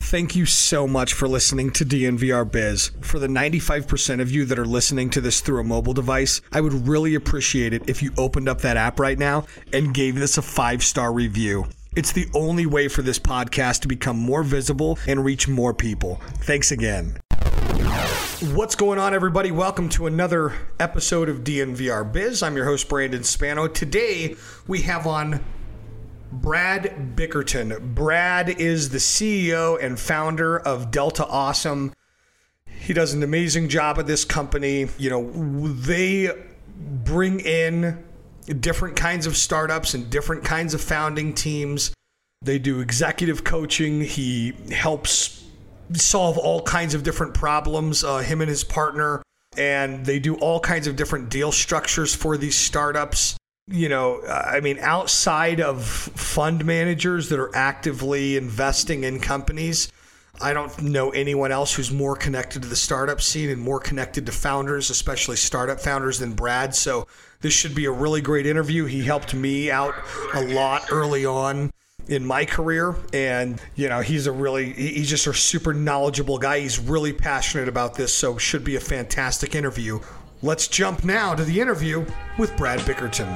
Thank you so much for listening to DNVR Biz. For the 95% of you that are listening to this through a mobile device, I would really appreciate it if you opened up that app right now and gave this a 5-star review. It's the only way for this podcast to become more visible and reach more people. Thanks again. What's going on, everybody? Welcome to another episode of DNVR Biz. I'm your host, Brandon Spano. Today, we have on Brad Bickerton. Brad is the CEO and founder of Delta Awesome. He does an amazing job at this company. You know, they bring in different kinds of startups and different kinds of founding teams. They do executive coaching. He helps solve all kinds of different problems, him and his partner, and they do all kinds of different deal structures for these startups. You know, I mean, outside of fund managers that are actively investing in companies, I don't know anyone else who's more connected to the startup scene and more connected to founders, especially startup founders, than Brad. So this should be a really great interview. He helped me out a lot early on in my career. And, you know, he's just a super knowledgeable guy. He's really passionate about this. So should be a fantastic interview. Let's jump now to the interview with Brad Bickerton.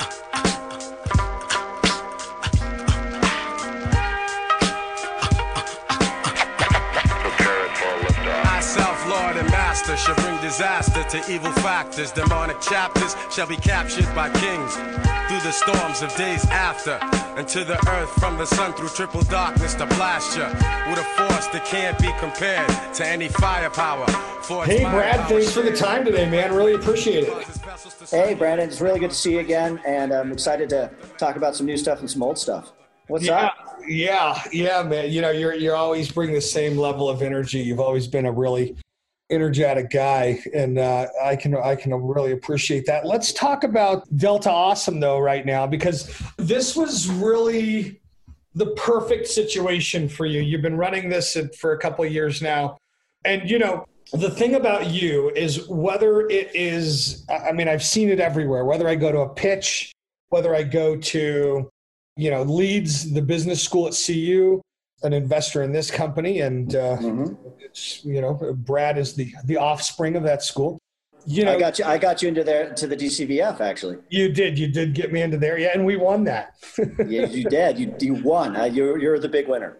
Lord and master shall bring disaster to evil factors. Demonic chapters shall be captured by kings through the storms of days after, and to the earth from the sun through triple darkness to blast you with a force that can't be compared to any firepower. Hey Brad, thanks for the time today, man. Really appreciate it. Hey Brandon, it's really good to see you again, and I'm excited to talk about some new stuff and some old stuff. What's up? Yeah, man. You know, you're always bring the same level of energy. You've always been a really energetic guy, and I can really appreciate that. Let's talk about Delta Awesome though right now, because this was really the perfect situation for you. You've been running this for a couple of years now, and you know, the thing about you is whether it is, I mean, I've seen it everywhere, whether I go to a pitch, whether I go to, you know, Leeds, the business school at CU, an investor in this company, and it's, you know, Brad is the offspring of that school. You know, I got you into to the DCVF actually. You did get me into there, yeah, and we won that. Yeah, you did. You won. You're the big winner.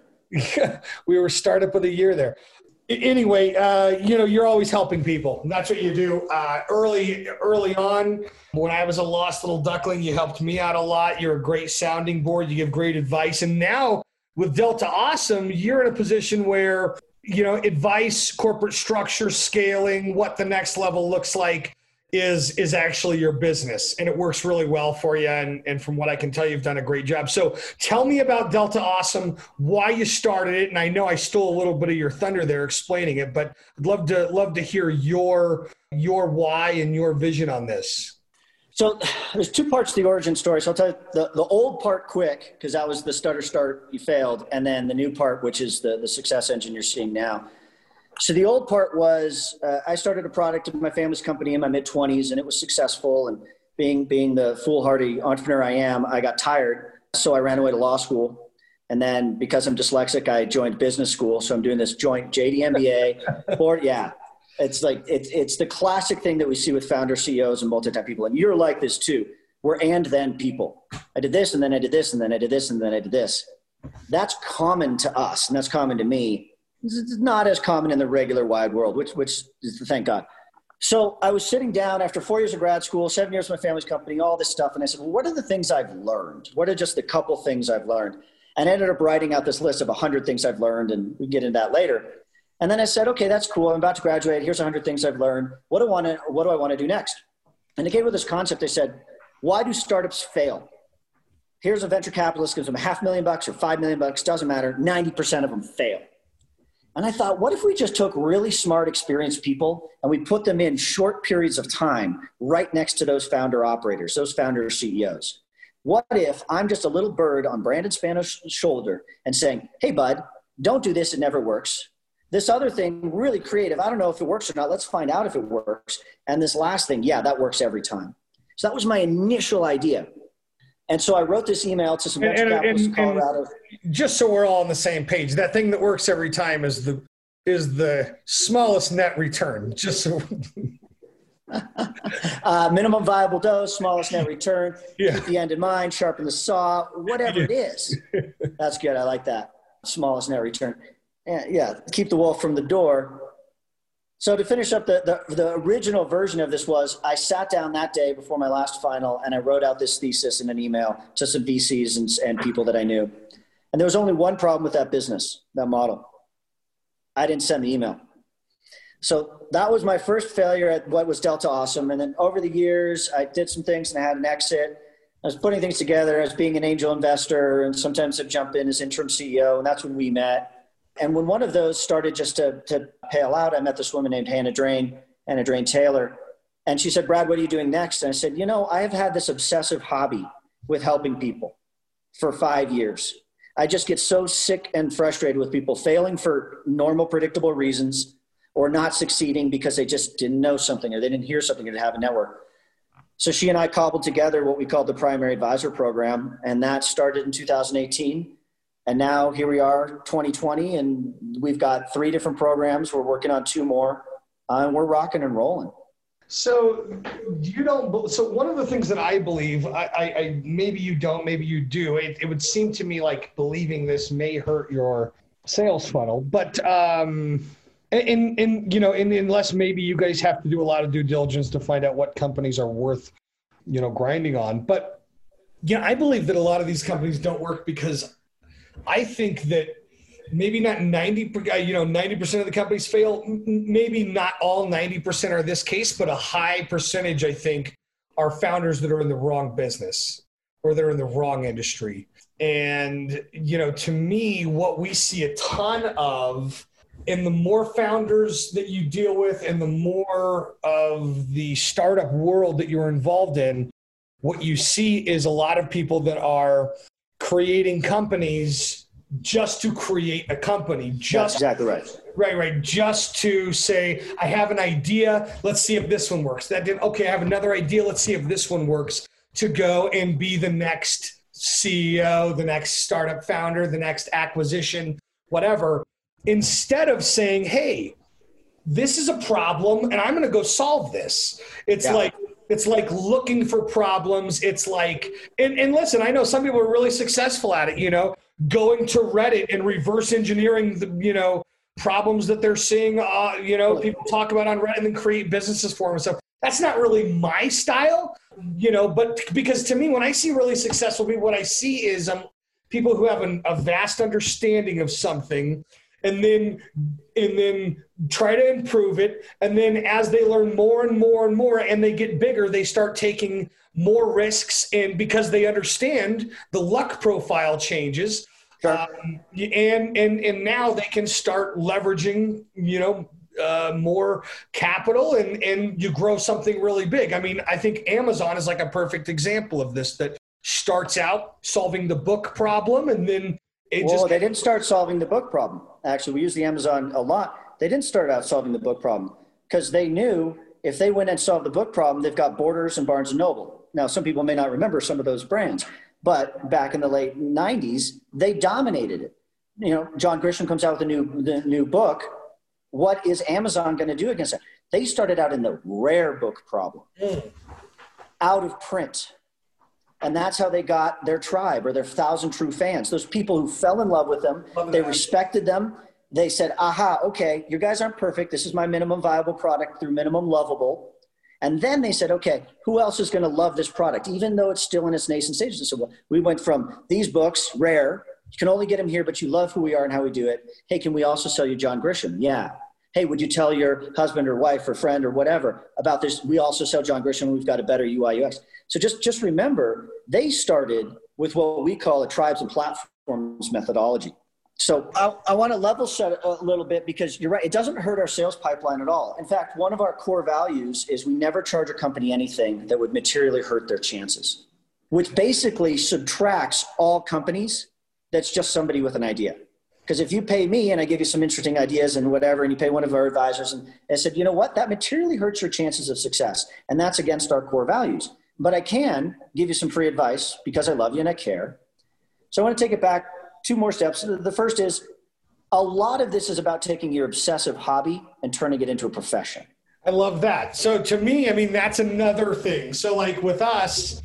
We were startup of the year there. Anyway, you know, you're always helping people. That's what you do. Early on, when I was a lost little duckling, you helped me out a lot. You're a great sounding board. You give great advice. And now with Delta Awesome, you're in a position where, you know, advice, corporate structure, scaling, what the next level looks like is actually your business. And it works really well for you. And from what I can tell, you've done a great job. So tell me about Delta Awesome, why you started it. And I know I stole a little bit of your thunder there explaining it, but I'd love to hear your why and your vision on this. So there's two parts to the origin story. So I'll tell you the old part quick, because that was the stutter start you failed. And then the new part, which is the success engine you're seeing now. So the old part was I started a product in my family's company in my mid-20s, and it was successful. And being the foolhardy entrepreneur I am, I got tired. So I ran away to law school. And then because I'm dyslexic, I joined business school. So I'm doing this joint JD MBA. Yeah, it's like it's the classic thing that we see with founder CEOs and multi-time people. And you're like this too. We're and then people. I did this, and then I did this, and then I did this, and then I did this. That's common to us, and that's common to me. It's not as common in the regular wide world, which is thank God. So I was sitting down after 4 years of grad school, 7 years with my family's company, all this stuff. And I said, well, what are the things I've learned? What are just the couple things I've learned? And I ended up writing out this list of 100 things I've learned, and we can get into that later. And then I said, okay, that's cool. I'm about to graduate. Here's 100 things I've learned. What do I want to do next? And they came with this concept. They said, why do startups fail? Here's a venture capitalist gives them $500,000 or $5 million, doesn't matter. 90% of them fail. And I thought, what if we just took really smart, experienced people and we put them in short periods of time right next to those founder operators, those founder CEOs? What if I'm just a little bird on Brandon Spano's shoulder and saying, hey, bud, don't do this. It never works. This other thing, really creative. I don't know if it works or not. Let's find out if it works. And this last thing, yeah, that works every time. So that was my initial idea. And so I wrote this email to some venture capitalists in Colorado. Just so we're all on the same page, that thing that works every time is the smallest net return. Just so minimum viable dose, smallest net return, yeah. Keep the end in mind, sharpen the saw, whatever it is. That's good. I like that. Smallest net return. Yeah, keep the wolf from the door. So to finish up, the original version of this was I sat down that day before my last final and I wrote out this thesis in an email to some VCs and people that I knew. And there was only one problem with that business, that model. I didn't send the email. So that was my first failure at what was Delta Awesome. And then over the years, I did some things and I had an exit. I was putting things together as being an angel investor, and sometimes I'd jump in as interim CEO, and that's when we met. And when one of those started just to pale out, I met this woman named Hannah Drain Taylor. And she said, Brad, what are you doing next? And I said, I have had this obsessive hobby with helping people for 5 years. I just get so sick and frustrated with people failing for normal, predictable reasons, or not succeeding because they just didn't know something or they didn't hear something or didn't have a network. So she and I cobbled together what we called the Primary Advisor Program, and that started in 2018. And now here we are, 2020, and we've got 3 different programs. We're working on 2 more, and we're rocking and rolling. So so one of the things that I believe, I maybe you don't, maybe you do, it would seem to me like believing this may hurt your sales funnel, but unless maybe you guys have to do a lot of due diligence to find out what companies are worth, grinding on. But I believe that a lot of these companies don't work because I think that maybe not 90% of the companies fail. Maybe not all 90% are this case, but a high percentage, I think, are founders that are in the wrong business or they're in the wrong industry. And, to me, what we see a ton of, and the more founders that you deal with and the more of the startup world that you're involved in, what you see is a lot of people that are creating companies just to create a company. That's exactly right. Right. Just to say, I have an idea. Let's see if this one works. That didn't. Okay, I have another idea. Let's see if this one works. To go and be the next CEO, the next startup founder, the next acquisition, whatever. Instead of saying, hey, this is a problem and I'm going to go solve this. It's like looking for problems. It's like, and listen, I know some people are really successful at it, going to Reddit and reverse engineering the, problems that they're seeing, people talk about on Reddit and then create businesses for them. So that's not really my style, but because to me, when I see really successful people, what I see is people who have a vast understanding of something and then try to improve it. And then as they learn more and more and more and they get bigger, they start taking more risks. And because they understand, the luck profile changes. Sure. And now they can start leveraging, more capital and you grow something really big. I mean, I think Amazon is like a perfect example of this, that starts out solving the book problem and then they didn't start solving the book problem. Actually, we use the Amazon a lot. They didn't start out solving the book problem because they knew if they went and solved the book problem, they've got Borders and Barnes & Noble. Now, some people may not remember some of those brands, but back in the late 90s, they dominated it. John Grisham comes out with the new book. What is Amazon going to do against it? They started out in the rare book problem, out of print. And that's how they got their tribe or their 1,000 true fans. Those people who fell in love with them, they respected them. They said, aha, okay, you guys aren't perfect. This is my minimum viable product through minimum lovable. And then they said, okay, who else is going to love this product, even though it's still in its nascent stages? And so we went from these books, rare, you can only get them here, but you love who we are and how we do it. Hey, can we also sell you John Grisham? Yeah. Hey, would you tell your husband or wife or friend or whatever about this? We also sell John Grisham. We've got a better UI UX. So just remember, they started with what we call a tribes and platforms methodology. So I want to level set a little bit because you're right. It doesn't hurt our sales pipeline at all. In fact, one of our core values is we never charge a company anything that would materially hurt their chances, which basically subtracts all companies that's just somebody with an idea. Because if you pay me and I give you some interesting ideas and whatever, and you pay one of our advisors and I said, you know what, that materially hurts your chances of success. And that's against our core values. but I can give you some free advice because I love you and I care. So I want to take it back 2 more steps. The first is a lot of this is about taking your obsessive hobby and turning it into a profession. I love that. So to me, I mean, that's another thing. So like with us,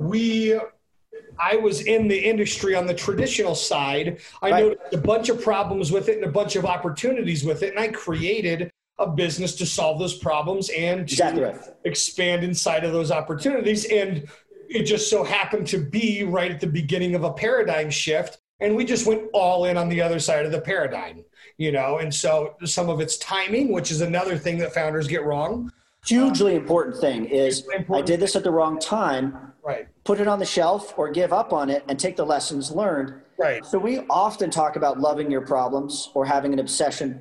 I was in the industry on the traditional side. I noticed a bunch of problems with it and a bunch of opportunities with it. And I created a business to solve those problems and to expand inside of those opportunities. And it just so happened to be right at the beginning of a paradigm shift. And we just went all in on the other side of the paradigm, you know? And so some of it's timing, which is another thing that founders get wrong. Hugely important thing is I did this at the wrong time. Right. Put it on the shelf or give up on it and take the lessons learned. Right. So we often talk about loving your problems or having an obsession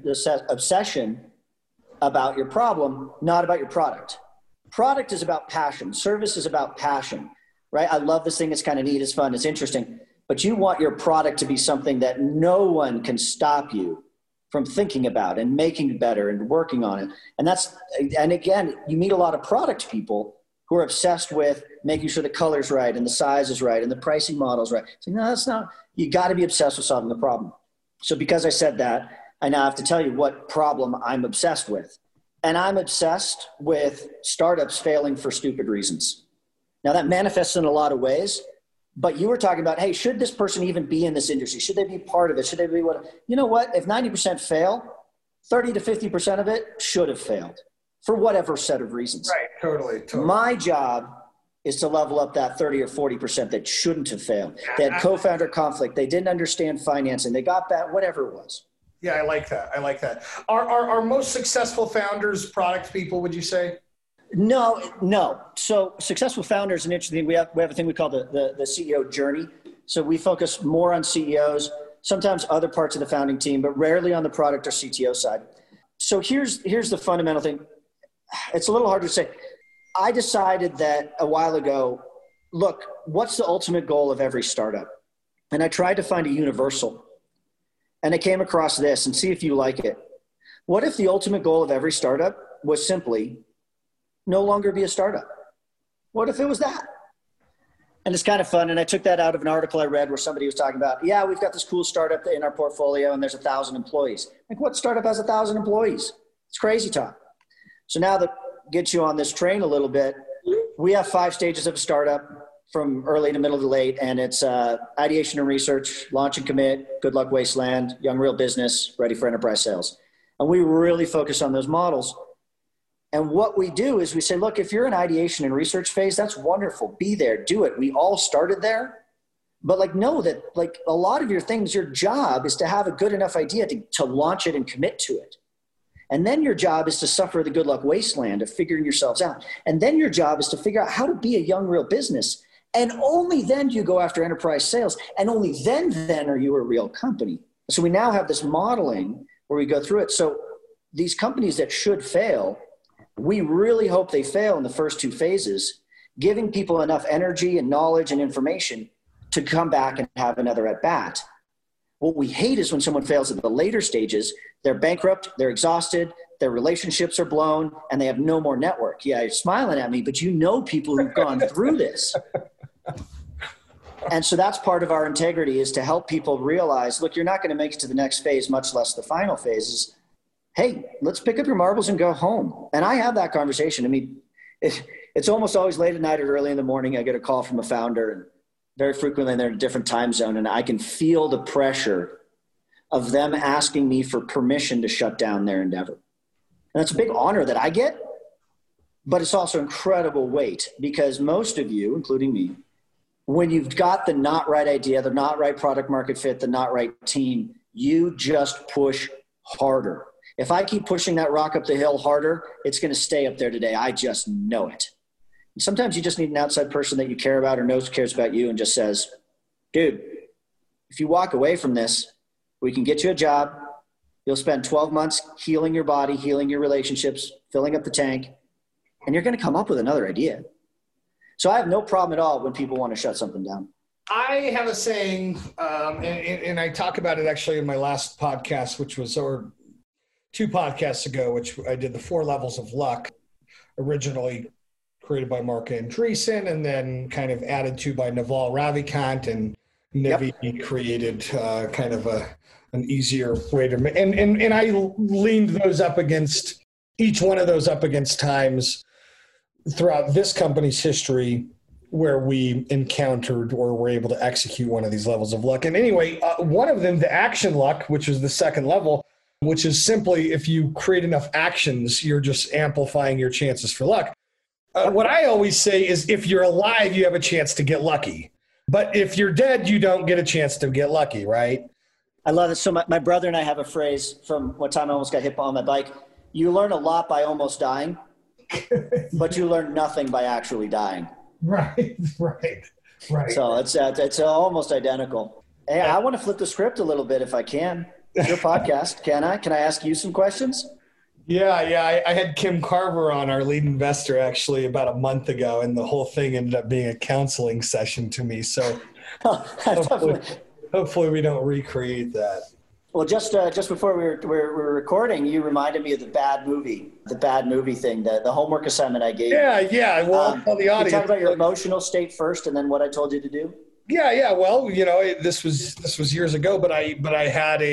about your problem, not about your product. Product is about passion. Service is about passion, right? I love this thing. It's kind of neat. It's fun. It's interesting. But you want your product to be something that no one can stop you from thinking about and making better and working on it. And again, you meet a lot of product people who are obsessed with making sure the color's right and the size is right and the pricing model's right. So, no, that's not, you got to be obsessed with solving the problem. So because I said that, I now have to tell you what problem I'm obsessed with. And I'm obsessed with startups failing for stupid reasons. Now that manifests in a lot of ways, but you were talking about, hey, should this person even be in this industry? Should they be part of it? Should they be what? You know what? If 90% fail, 30 to 50% of it should have failed for whatever set of reasons. Right, totally. My job is to level up that 30 or 40% that shouldn't have failed. They had co-founder conflict. They didn't understand financing. They got that, whatever it was. Yeah, I like that. Are most successful founders product people, would you say? No. So successful founders, an interesting thing. We have a thing we call the CEO journey. So we focus more on CEOs, sometimes other parts of the founding team, but rarely on the product or CTO side. So here's the fundamental thing. It's a little hard to say. I decided that a while ago, look, what's the ultimate goal of every startup? And I tried to find a universal. And I came across this, and see if you like it. What if the ultimate goal of every startup was simply no longer be a startup? What if it was that? And it's kind of fun. And I took that out of an article I read where somebody was talking about, yeah, we've got this cool startup in our portfolio and there's 1,000 employees. Like, what startup has 1,000 employees? It's crazy talk. So now that gets you on this train a little bit, we have 5 stages of a startup from early to middle to late. And it's ideation and research, launch and commit, good luck wasteland, young real business, ready for enterprise sales. And we really focus on those models. And what we do is we say, look, if you're in ideation and research phase, that's wonderful. Be there, do it. We all started there. But know that a lot of your things, your job is to have a good enough idea to launch it and commit to it. And then your job is to suffer the good luck wasteland of figuring yourselves out. And then your job is to figure out how to be a young real business. And only then do you go after enterprise sales. And only then are you a real company. So we now have this modeling where we go through it. So these companies that should fail, we really hope they fail in the first 2 phases, giving people enough energy and knowledge and information to come back and have another at bat. What we hate is when someone fails at the later stages, they're bankrupt, they're exhausted, their relationships are blown, and they have no more network. Yeah, you're smiling at me, but you know people who've gone through this. And so that's part of our integrity, is to help people realize, look, you're not going to make it to the next phase, much less the final phases. Hey, let's pick up your marbles and go home. And I have that conversation. I mean, it's almost always late at night or early in the morning. I get a call from a founder, and very frequently they're in a different time zone. And I can feel the pressure of them asking me for permission to shut down their endeavor. And that's a big honor that I get, but it's also incredible weight, because most of you, including me, when you've got the not right idea, the not right product market fit, the not right team, you just push harder. If I keep pushing that rock up the hill harder, it's going to stay up there today. I just know it. And sometimes you just need an outside person that you care about or cares about you and just says, dude, if you walk away from this, we can get you a job. You'll spend 12 months healing your body, healing your relationships, filling up the tank, and you're going to come up with another idea. So I have no problem at all when people want to shut something down. I have a saying, and I talk about it actually in my last podcast, which was, or 2 podcasts ago, which I did the 4 levels of luck originally. created by Mark Andreessen, and then kind of added to by Naval Ravikant, and Nivi created kind of an easier way to make. And I leaned those up against each one of those up against times throughout this company's history where we encountered or were able to execute one of these levels of luck. And anyway, one of them, the action luck, which is the second level, which is simply if you create enough actions, you're just amplifying your chances for luck. What I always say is if you're alive, you have a chance to get lucky. But if you're dead, you don't get a chance to get lucky, right? I love it. So my brother and I have a phrase from one time I almost got hit on my bike. You learn a lot by almost dying, but you learn nothing by actually dying. Right. So it's almost identical. Hey, I want to flip the script a little bit if I can. It's your podcast. Can I? Can I ask you some questions? Yeah. I had Kim Carver on, our lead investor, actually about a month ago, and the whole thing ended up being a counseling session to me. So hopefully we don't recreate that. Well, just before we were recording, you reminded me of the bad movie thing, the homework assignment I gave you. Yeah. Well, I'll tell the audience. You talk about your emotional state first, and then what I told you to do. Yeah. Well, this was years ago, but I had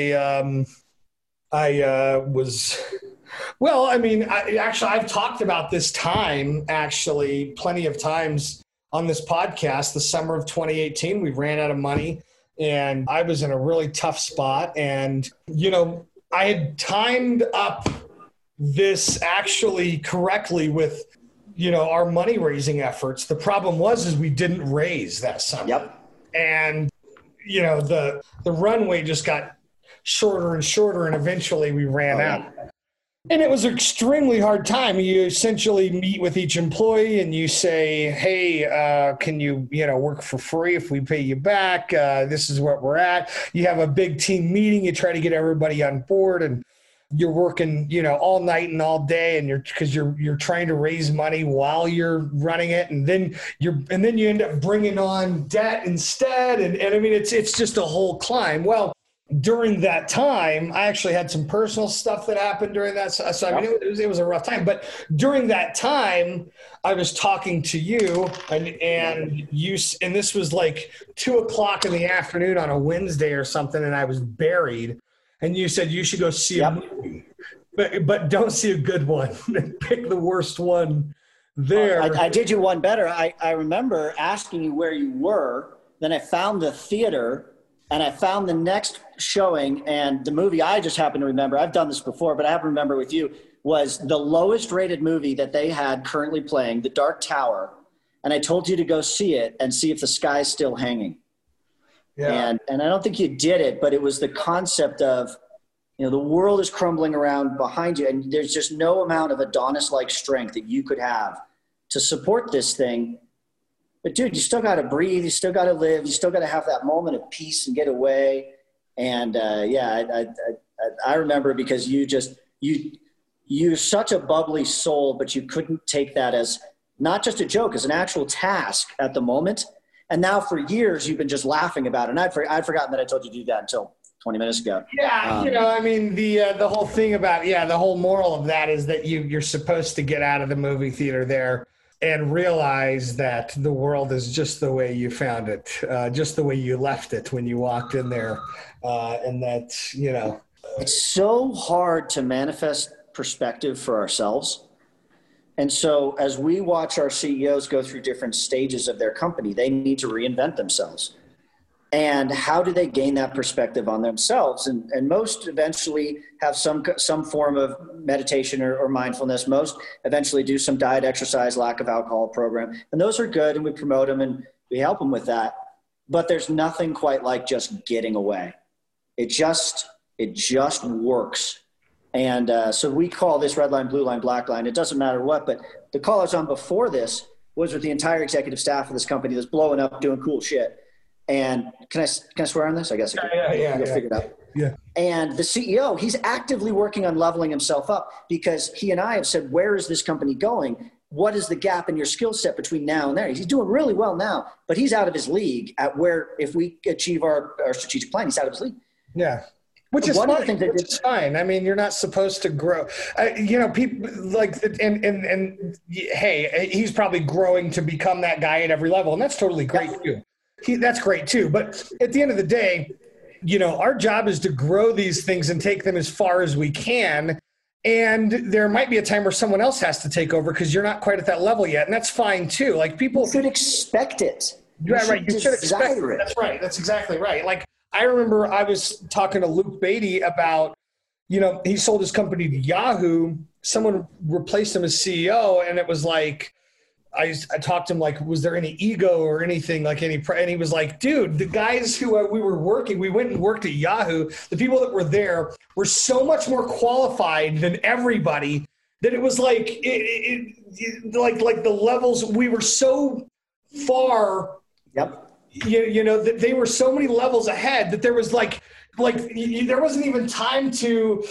I've talked about this time actually plenty of times on this podcast. The summer of 2018, we ran out of money. And I was in a really tough spot. And, I had timed up this actually correctly with, our money raising efforts. The problem was we didn't raise that summer. Yep. And, the runway just got shorter and shorter, and eventually we ran out. And it was an extremely hard time. You essentially meet with each employee and you say, hey, can you, work for free if we pay you back? This is what we're at. You have a big team meeting. You try to get everybody on board, and you're working, all night and all day, and because you're trying to raise money while you're running it. And then you end up bringing on debt instead. And I mean, it's just a whole climb. Well, during that time, I actually had some personal stuff that happened during that. So I mean, it was a rough time. But during that time, I was talking to you, and this was like 2:00 in the afternoon on a Wednesday or something, and I was buried. And you said you should go see a movie, but don't see a good one. Pick the worst one there. I did you one better. I remember asking you where you were. Then I found the theater. And I found the next showing, and the movie I just happened to remember, I've done this before, but I happen to remember with you, was the lowest rated movie that they had currently playing, The Dark Tower. And I told you to go see it and see if the sky's still hanging. Yeah. And I don't think you did it, but it was the concept of, the world is crumbling around behind you, and there's just no amount of Adonis-like strength that you could have to support this thing. But dude, you still got to breathe. You still got to live. You still got to have that moment of peace and get away. And I remember because you're such a bubbly soul, but you couldn't take that as not just a joke, as an actual task at the moment. And now for years you've been just laughing about it. And I'd forgotten that I told you to do that until 20 minutes ago. Yeah, the whole thing about the whole moral of that is that you're supposed to get out of the movie theater there and realize that the world is just the way you found it, just the way you left it when you walked in there. And that, It's so hard to manifest perspective for ourselves. And so as we watch our CEOs go through different stages of their company, they need to reinvent themselves. And how do they gain that perspective on themselves? And most eventually have some form of meditation or mindfulness. Most eventually do some diet, exercise, lack of alcohol program. And those are good, and we promote them and we help them with that. But there's nothing quite like just getting away. It just works. And so we call this red line, blue line, black line. It doesn't matter what, but the call I was on before this was with the entire executive staff of this company that's blowing up, doing cool shit. And can I swear on this? I guess I can. Yeah. Figure it out. Yeah. And the CEO, he's actively working on leveling himself up because he and I have said, where is this company going? What is the gap in your skill set between now and there? He's doing really well now, but he's out of his league at where if we achieve our strategic plan, he's out of his league. Yeah. Which is one fine. of the things Which is fine. I mean, you're not supposed to grow. People like, and hey, he's probably growing to become that guy at every level, and that's totally great too. That's great too. But at the end of the day, our job is to grow these things and take them as far as we can. And there might be a time where someone else has to take over because you're not quite at that level yet, and that's fine too. Like people should expect it. Right. You should expect it. That's right. That's exactly right. Like I remember I was talking to Luke Beatty about, he sold his company to Yahoo. Someone replaced him as CEO, and it was like, I talked to him like, was there any ego or anything like and he was like, dude, the guys who we went and worked at Yahoo, the people that were there were so much more qualified than everybody that it was like, like the levels, we were so far. Yep. That they were so many levels ahead that there was like there wasn't even time to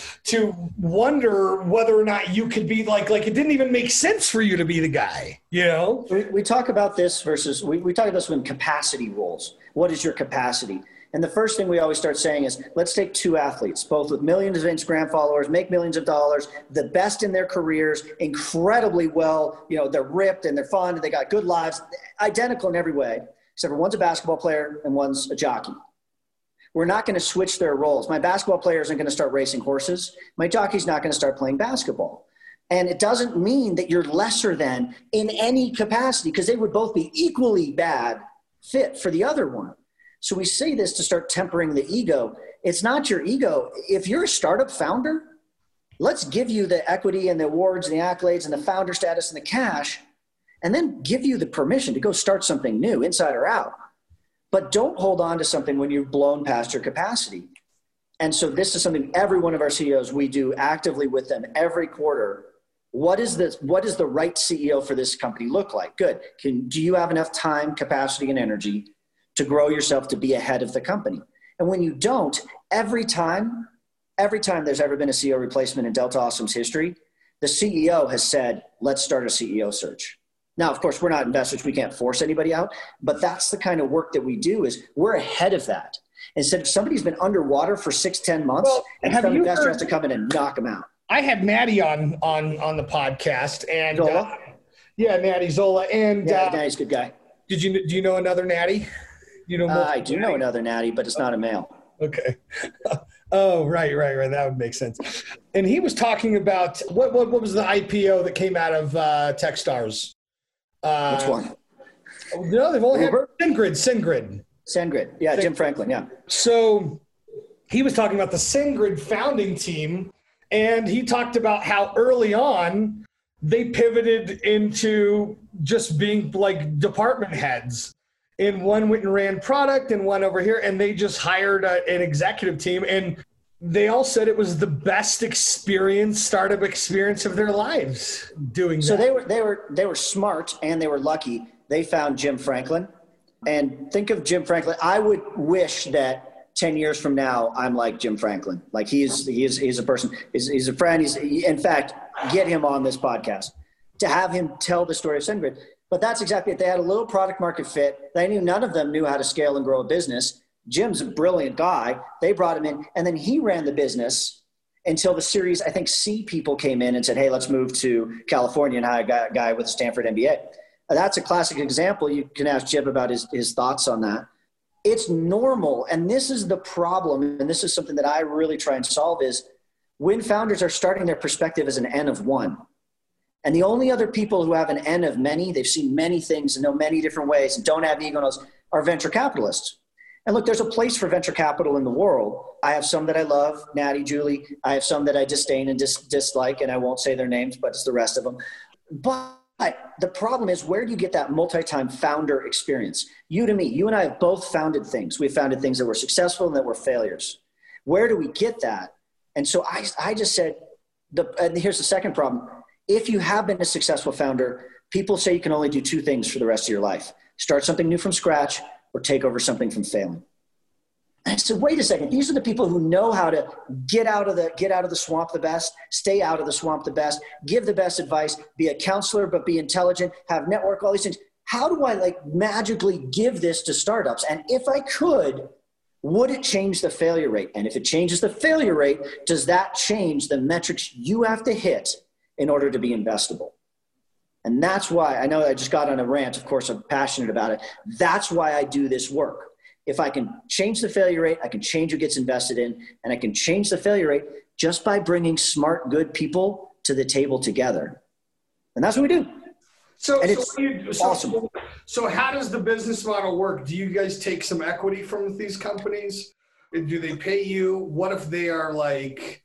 wonder whether or not you could be like it didn't even make sense for you to be the guy. We talk about this versus we talk about this when capacity roles. What is your capacity? And the first thing we always start saying is, let's take two athletes, both with millions of Instagram followers, make millions of dollars, the best in their careers, incredibly well, they're ripped and they're fun and they got good lives, identical in every way, except for one's a basketball player and one's a jockey. We're not going to switch their roles. My basketball player isn't going to start racing horses. My jockey's not going to start playing basketball. And it doesn't mean that you're lesser than in any capacity, because they would both be equally bad fit for the other one. So we say this to start tempering the ego. It's not your ego. If you're a startup founder, let's give you the equity and the awards and the accolades and the founder status and the cash, and then give you the permission to go start something new, inside or out. But don't hold on to something when you've blown past your capacity. And so this is something every one of our CEOs, we do actively with them every quarter. What does the right CEO for this company look like? Good. Do you have enough time, capacity, and energy to grow yourself to be ahead of the company? And when you don't, every time there's ever been a CEO replacement in Delta Awesome's history, the CEO has said, let's start a CEO search. Now, of course, we're not investors. We can't force anybody out, but that's the kind of work that we do. Is we're ahead of that. Instead of somebody's been underwater for 6-10 months, and some investor has to come in and knock them out. I had Natty on the podcast, and Zola? Natty Zola, and Natty's a good guy. Do you know another Natty? I do know another Natty, but it's not a male. Okay. Oh, right. That would make sense. And he was talking about what was the IPO that came out of Techstars? Which one? No, they've only had SendGrid. SendGrid. Yeah, Jim Franklin. Yeah. So he was talking about the SendGrid founding team, and he talked about how early on they pivoted into just being like department heads. And one went and ran product and one over here, and they just hired an executive team, and they all said it was the best startup experience of their lives doing that. So they were smart and they were lucky. They found Jim Franklin, and think of Jim Franklin. I would wish that 10 years from now, I'm like Jim Franklin. Like he's a person, he's a friend. In fact, get him on this podcast to have him tell the story of SendGrid. But that's exactly it. They had a little product market fit. None of them knew how to scale and grow a business. Jim's a brilliant guy. They brought him in, and then he ran the business until the Series, I think, C people came in and said, hey, let's move to California and hire a guy with a Stanford MBA. That's a classic example. You can ask Jim about his thoughts on that. It's normal, and this is the problem, and this is something that I really try and solve, is when founders are starting their perspective as an N of one. And the only other people who have an N of many, they've seen many things and know many different ways and don't have ego, are venture capitalists. And look, there's a place for venture capital in the world. I have some that I love, Natty, Julie. I have some that I disdain and dislike, and I won't say their names, but it's the rest of them. But the problem is, where do you get that multi-time founder experience? You and I have both founded things. We've founded things that were successful and that were failures. Where do we get that? And so I just said, and here's the second problem. If you have been a successful founder, people say you can only do two things for the rest of your life: start something new from scratch or take over something from failing. And I said, wait a second. These are the people who know how to get out of the swamp the best, stay out of the swamp the best, give the best advice, be a counselor, but be intelligent, have network, all these things. How do I magically give this to startups? And if I could, Would it change the failure rate? And if it changes the failure rate, does that change the metrics you have to hit in order to be investable? And that's why, I know I just got on a rant, of course I'm passionate about it. That's why I do this work. If I can change the failure rate, I can change who gets invested in, and I can change the failure rate just by bringing smart, good people to the table together. And that's what we do. So how does the business model work? Do you guys take some equity from these companies? Do they pay you? What if they are like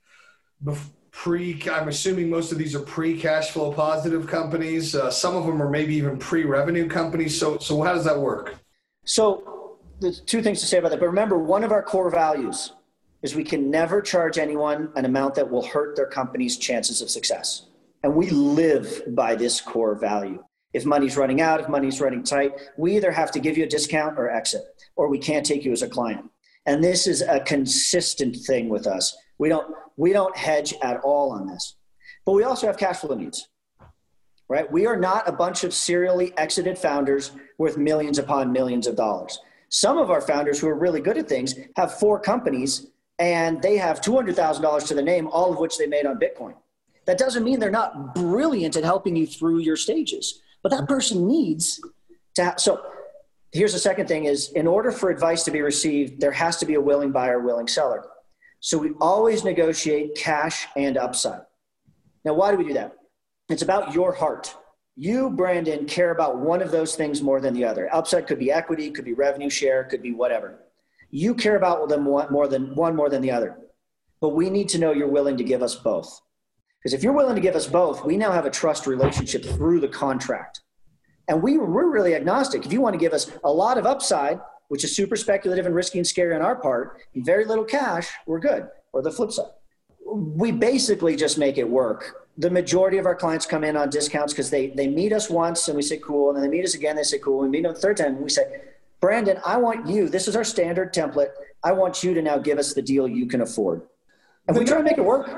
I'm assuming most of these are pre-cash flow positive companies. Some of them are maybe even pre-revenue companies. So how does that work? So there's two things to say about that. But remember, one of our core values is we can never charge anyone an amount that will hurt their company's chances of success. And we live by this core value. If money's running out, if money's running tight, we either have to give you a discount or exit, or we can't take you as a client. And this is a consistent thing with us. We don't hedge at all on this. But we also have cash flow needs, right? We are not a bunch of serially exited founders worth millions upon millions of dollars. Some of our founders who are really good at things have 4 companies and they have $200,000 to the name, all of which they made on Bitcoin. That doesn't mean they're not brilliant at helping you through your stages, but that person needs to so here's the second thing is, in order for advice to be received, there has to be a willing buyer, willing seller. So we always negotiate cash and upside. Now, why do we do that? It's about your heart. You, Brandon, care about one of those things more than the other. Upside could be equity, could be revenue share, could be whatever. You care about them more than the other. But we need to know you're willing to give us both. Because if you're willing to give us both, we now have a trust relationship through the contract. And we're really agnostic. If you want to give us a lot of upside, which is super speculative and risky and scary on our part, and very little cash, we're good. Or the flip side. We basically just make it work. The majority of our clients come in on discounts because they meet us once and we say, cool. And then they meet us again, they say, cool. We meet them the third time and we say, Brandon, I want you, this is our standard template. I want you to now give us the deal you can afford. And we try to make it work.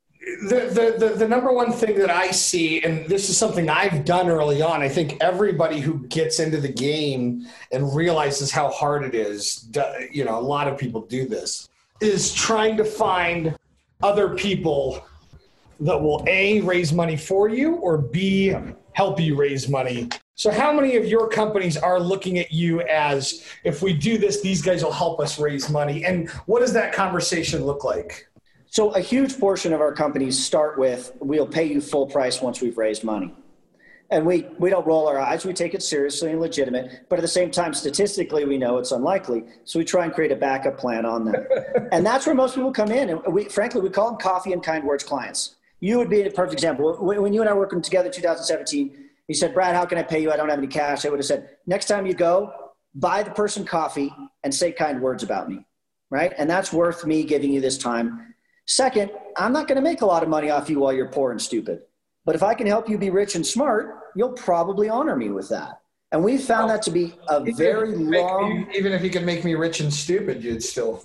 The number one thing that I see, and this is something I've done early on, I think everybody who gets into the game and realizes how hard it is, a lot of people do this, is trying to find other people that will A, raise money for you, or B, help you raise money. So how many of your companies are looking at you as, if we do this, these guys will help us raise money? And what does that conversation look like? So a huge portion of our companies start with, we'll pay you full price once we've raised money. And we don't roll our eyes. We take it seriously and legitimate. But at the same time, statistically, we know it's unlikely. So we try and create a backup plan on that. And that's where most people come in. And frankly, we call them coffee and kind words clients. You would be a perfect example. When you and I were working together in 2017, you said, Brad, how can I pay you? I don't have any cash. I would have said, next time you go, buy the person coffee and say kind words about me, right? And that's worth me giving you this time. Second, I'm not going to make a lot of money off you while you're poor and stupid. But if I can help you be rich and smart, you'll probably honor me with that. And we found that to be a very long... Even if you can make me rich and stupid, you'd still,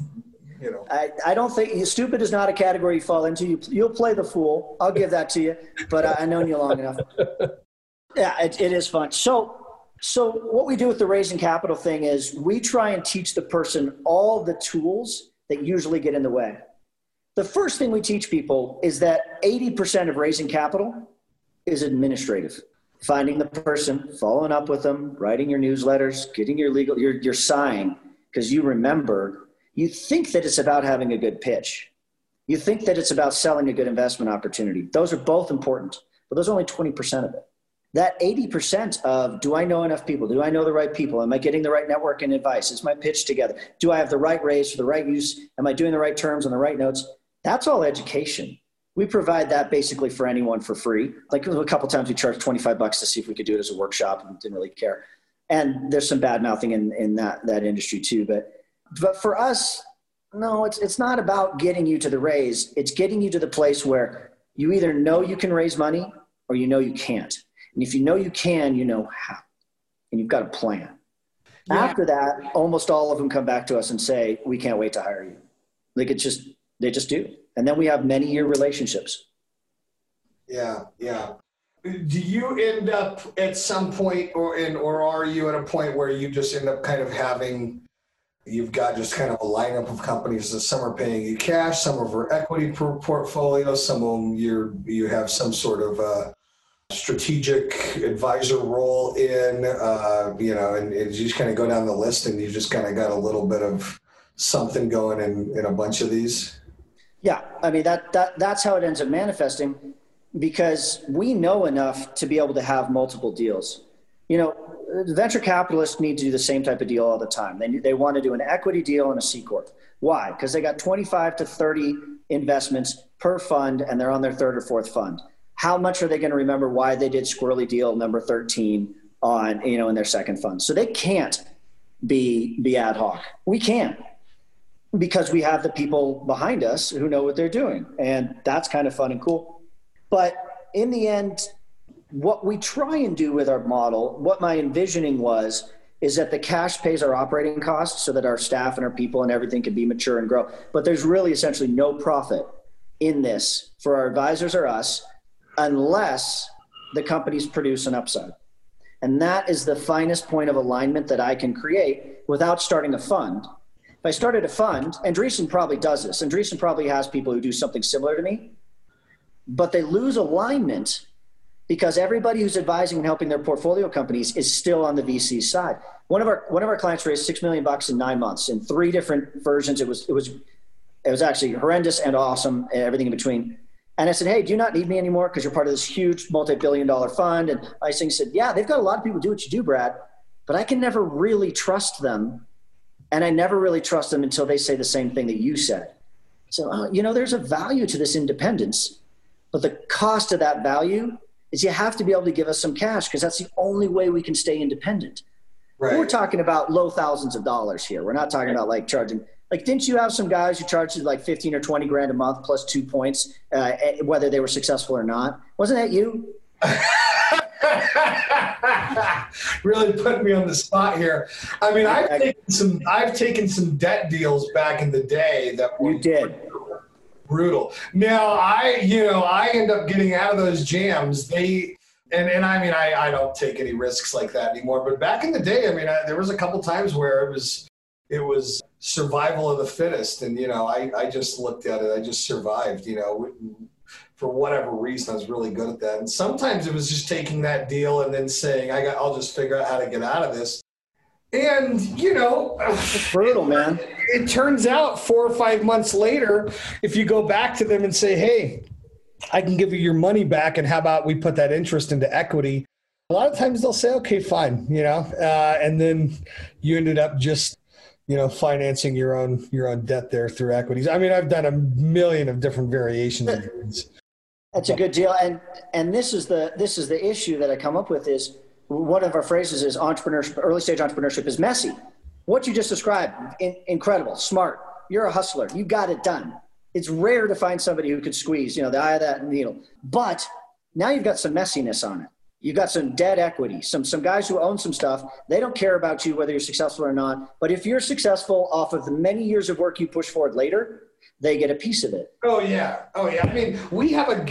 I don't think... Stupid is not a category you fall into. You'll play the fool. I'll give that to you. But I've known you long enough. Yeah, it is fun. So what we do with the raising capital thing is we try and teach the person all the tools that usually get in the way. The first thing we teach people is that 80% of raising capital is administrative. Finding the person, following up with them, writing your newsletters, getting your sign, because you think that it's about having a good pitch. You think that it's about selling a good investment opportunity. Those are both important, but those are only 20% of it. That 80% of, do I know enough people? Do I know the right people? Am I getting the right network and advice? Is my pitch together? Do I have the right raise for the right use? Am I doing the right terms on the right notes? That's all education. We provide that basically for anyone for free. Like a couple times we charged $25 to see if we could do it as a workshop and didn't really care. And there's some bad mouthing in that industry too. But for us, no, it's not about getting you to the raise. It's getting you to the place where you either know you can raise money or you know you can't. And if you know you can, you know how. And you've got a plan. Yeah. After that, almost all of them come back to us and say, we can't wait to hire you. Like they just do. And then we have many year relationships. Yeah. Do you end up at some point or are you at a point where you just end up kind of having You've got just kind of a lineup of companies that some are paying you cash, some are equity per portfolio, some of them you have some sort of strategic advisor role in, and you just kind of go down the list and you just kind of got a little bit of something going in a bunch of these. Yeah, I mean, that's how it ends up manifesting, because we know enough to be able to have multiple deals. Venture capitalists need to do the same type of deal all the time. They want to do an equity deal and a C Corp. Why? Because they got 25 to 30 investments per fund, and they're on their third or fourth fund. How much are they going to remember why they did squirrely deal number 13 on, in their second fund? So they can't be ad hoc. We can, because we have the people behind us who know what they're doing. And that's kind of fun and cool. But in the end, what we try and do with our model, what my envisioning was, is that the cash pays our operating costs so that our staff and our people and everything can be mature and grow. But there's really essentially no profit in this for our advisors or us, unless the companies produce an upside. And that is the finest point of alignment that I can create without starting a fund. If I started a fund, Andreessen probably does this. Andreessen probably has people who do something similar to me, but they lose alignment because everybody who's advising and helping their portfolio companies is still on the VC side. One of our clients raised $6 million in 9 months in 3 different versions. It was actually horrendous and awesome and everything in between. And I said, hey, do you not need me anymore because you're part of this huge multi-billion-dollar fund? And I said, yeah, they've got a lot of people do what you do, Brad, but I can never really trust them. And I never really trust them until they say the same thing that you said. So, there's a value to this independence, but the cost of that value is you have to be able to give us some cash, because that's the only way we can stay independent. Right. We're talking about low thousands of dollars here. We're not talking about charging. Didn't you have some guys who charged you 15 or 20 grand a month plus 2 points, whether they were successful or not? Wasn't that you? Really putting me on the spot here. I mean, I've taken some debt deals back in the day that were brutal. Now I end up getting out of those jams. I don't take any risks like that anymore. But back in the day, there was a couple times where it was survival of the fittest, and I just looked at it. I just survived. For whatever reason, I was really good at that. And sometimes it was just taking that deal and then saying, I'll just figure out how to get out of this. And, it's brutal, man. It turns out 4 or 5 months later, if you go back to them and say, hey, I can give you your money back, and how about we put that interest into equity? A lot of times they'll say, okay, fine, and then you ended up just, financing your own debt there through equities. I've done a million of different variations of things. That's a good deal. And this is the issue that I come up with is, one of our phrases is entrepreneurship, early stage entrepreneurship is messy. What you just described, incredible, smart. You're a hustler. You got it done. It's rare to find somebody who could squeeze, the eye of that needle. But now you've got some messiness on it. You've got some debt equity, some guys who own some stuff. They don't care about you, whether you're successful or not. But if you're successful off of the many years of work you push forward later, they get a piece of it. Oh yeah. We have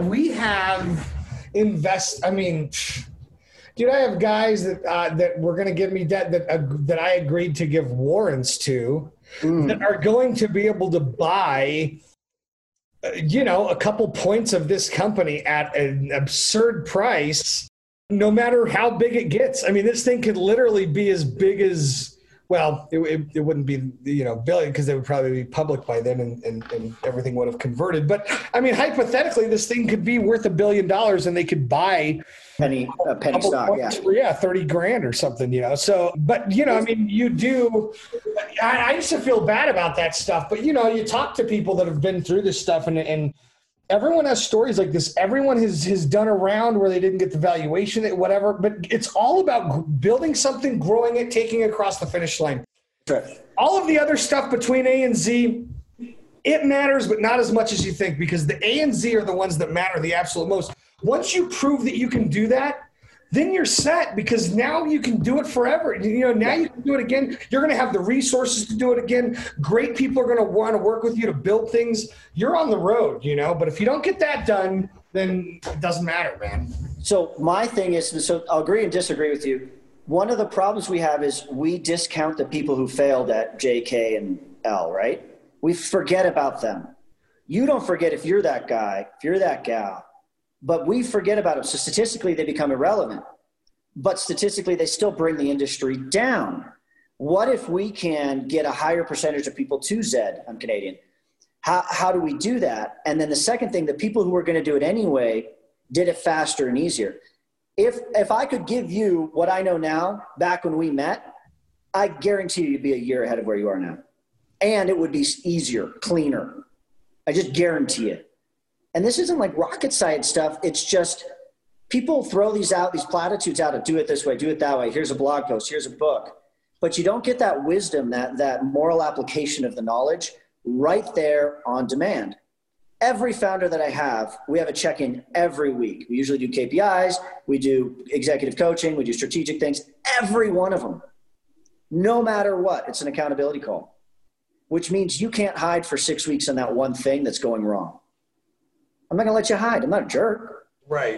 dude, I have guys that were going to give me debt that I agreed to give warrants to that are going to be able to buy, a couple points of this company at an absurd price, no matter how big it gets. This thing could literally be as big as, well, it wouldn't be, billion, because they would probably be public by then and everything would have converted. But hypothetically, this thing could be worth $1 billion and they could buy penny stock, yeah, 30 grand or something, So, but you do. I used to feel bad about that stuff, but you talk to people that have been through this stuff, and everyone has stories like this. Everyone has done a round where they didn't get the valuation, whatever. But it's all about building something, growing it, taking it across the finish line. Sure. All of the other stuff between A and Z, it matters, but not as much as you think, because the A and Z are the ones that matter the absolute most. Once you prove that you can do that, then you're set, because now you can do it forever. Now you can do it again. You're going to have the resources to do it again. Great people are going to want to work with you to build things. You're on the road, but if you don't get that done, then it doesn't matter, man. So my thing is, so I'll agree and disagree with you. one of the problems we have is we discount the people who failed at J, K, and L, right? We forget about them. You don't forget if you're that guy, if you're that gal, but we forget about them. So statistically, they become irrelevant. But statistically, they still bring the industry down. What if we can get a higher percentage of people to Zed? I'm Canadian. How do we do that? And then the second thing, the people who were going to do it anyway did it faster and easier. If I could give you what I know now, back when we met, I guarantee you'd be a year ahead of where you are now. And it would be easier, cleaner. I just guarantee it. And this isn't like rocket science stuff. It's just people throw these platitudes out of do it this way, do it that way. Here's a blog post, here's a book. But you don't get that wisdom, that moral application of the knowledge right there on demand. Every founder that I have, we have a check-in every week. We usually do KPIs, we do executive coaching, we do strategic things. Every one of them, no matter what, it's an accountability call, which means you can't hide for 6 weeks on that one thing that's going wrong. I'm not going to let you hide. I'm not a jerk. Right.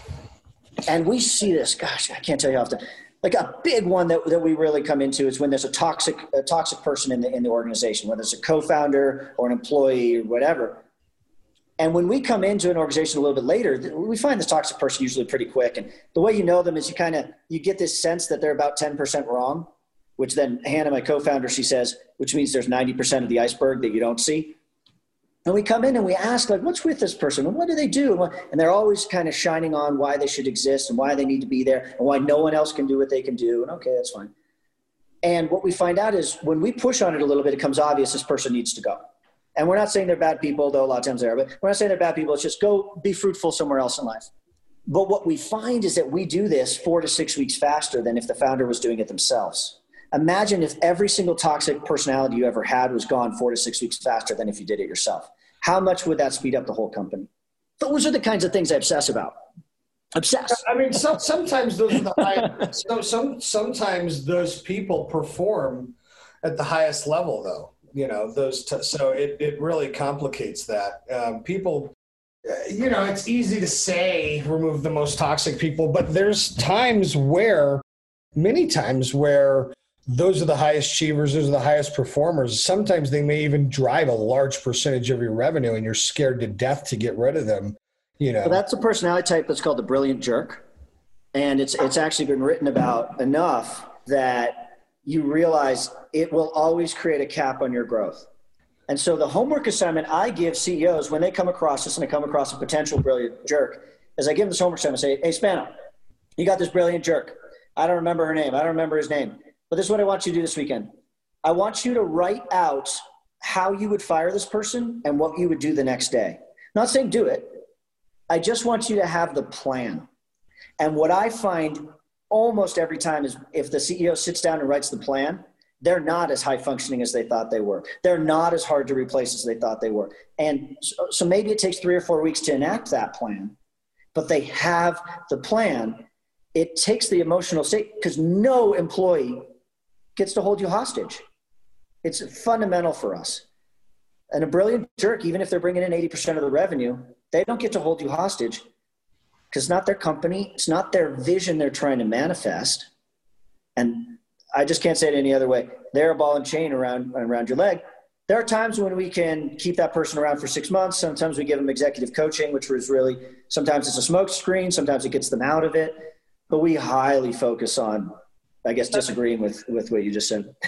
And we see this, gosh, I can't tell you how often. Like a big one that we really come into is when there's a toxic person in the organization, whether it's a co-founder or an employee or whatever. And when we come into an organization a little bit later, we find this toxic person usually pretty quick. And the way you know them is you get this sense that they're about 10% wrong, which then Hannah, my co-founder, she says, which means there's 90% of the iceberg that you don't see. And we come in and we ask, like, what's with this person? And what do they do? And they're always kind of shining on why they should exist and why they need to be there and why no one else can do what they can do. And okay, that's fine. And what we find out is when we push on it a little bit, it becomes obvious this person needs to go. And we're not saying they're bad people, though a lot of times they are, but we're not saying they're bad people. It's just go be fruitful somewhere else in life. But what we find is that we do this 4 to 6 weeks faster than if the founder was doing it themselves. Imagine if every single toxic personality you ever had was gone 4 to 6 weeks faster than if you did it yourself. How much would that speed up the whole company? Those are the kinds of things I obsess about. Obsess. I mean, sometimes those are the highest. Sometimes those people perform at the highest level, though. You know, so it really complicates that. People, you know, it's easy to say remove the most toxic people, but there's many times where those are the highest achievers, those are the highest performers. Sometimes they may even drive a large percentage of your revenue and you're scared to death to get rid of them, you know. So that's a personality type that's called the brilliant jerk. And it's actually been written about enough that you realize it will always create a cap on your growth. And so the homework assignment I give CEOs when they come across this and they come across a potential brilliant jerk is I give them this homework assignment and say, hey, Spano, you got this brilliant jerk. I don't remember her name. I don't remember his name. But this is what I want you to do this weekend. I want you to write out how you would fire this person and what you would do the next day. Not saying do it. I just want you to have the plan. And what I find almost every time is if the CEO sits down and writes the plan, they're not as high functioning as they thought they were. They're not as hard to replace as they thought they were. And so maybe it takes 3 or 4 weeks to enact that plan, but they have the plan. It takes the emotional state because no employee gets to hold you hostage. It's fundamental for us. And a brilliant jerk, even if they're bringing in 80% of the revenue, they don't get to hold you hostage because it's not their company. It's not their vision they're trying to manifest. And I just can't say it any other way. They're a ball and chain around your leg. There are times when we can keep that person around for 6 months. Sometimes we give them executive coaching, which was really, sometimes it's a smoke screen. Sometimes it gets them out of it. But we highly focus on, I guess, disagreeing with what you just said.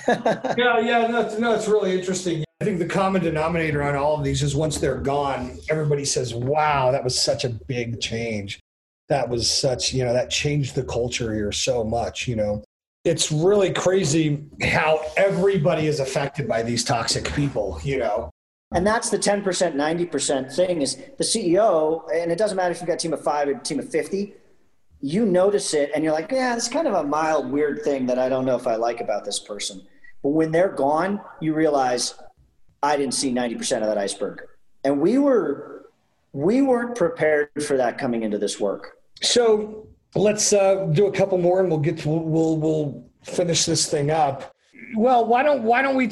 No, it's really interesting. I think the common denominator on all of these is once they're gone, everybody says, wow, that was such a big change. That was such, you know, that changed the culture here so much, you know. It's really crazy how everybody is affected by these toxic people, you know. And that's the 10%, 90% thing is the CEO, and it doesn't matter if you've got a team of 5 or a team of 50, you notice it and you're like, yeah, it's kind of a mild, weird thing that I don't know if I like about this person. But when they're gone, you realize I didn't see 90% of that iceberg. And we weren't prepared for that coming into this work. So let's do a couple more and we'll finish this thing up. Well, why don't you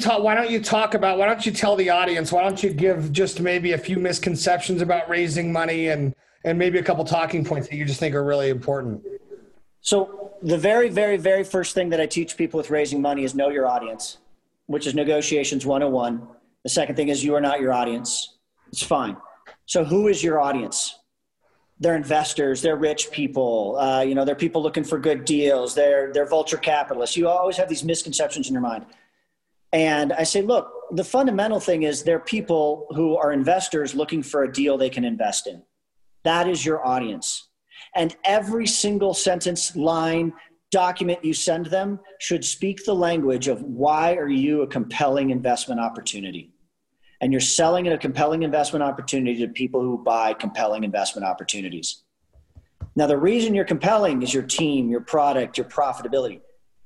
tell the audience, why don't you give just maybe a few misconceptions about raising money and maybe a couple talking points that you just think are really important. So the very, very, very first thing that I teach people with raising money is know your audience, which is negotiations 101. The second thing is you are not your audience. It's fine. So who is your audience? They're investors, they're rich people, they're people looking for good deals, they're vulture capitalists. You always have these misconceptions in your mind. And I say, look, the fundamental thing is they're people who are investors looking for a deal they can invest in. That is your audience. And every single sentence, line, document you send them should speak the language of why are you a compelling investment opportunity? And you're selling a compelling investment opportunity to people who buy compelling investment opportunities. Now, the reason you're compelling is your team, your product, your profitability.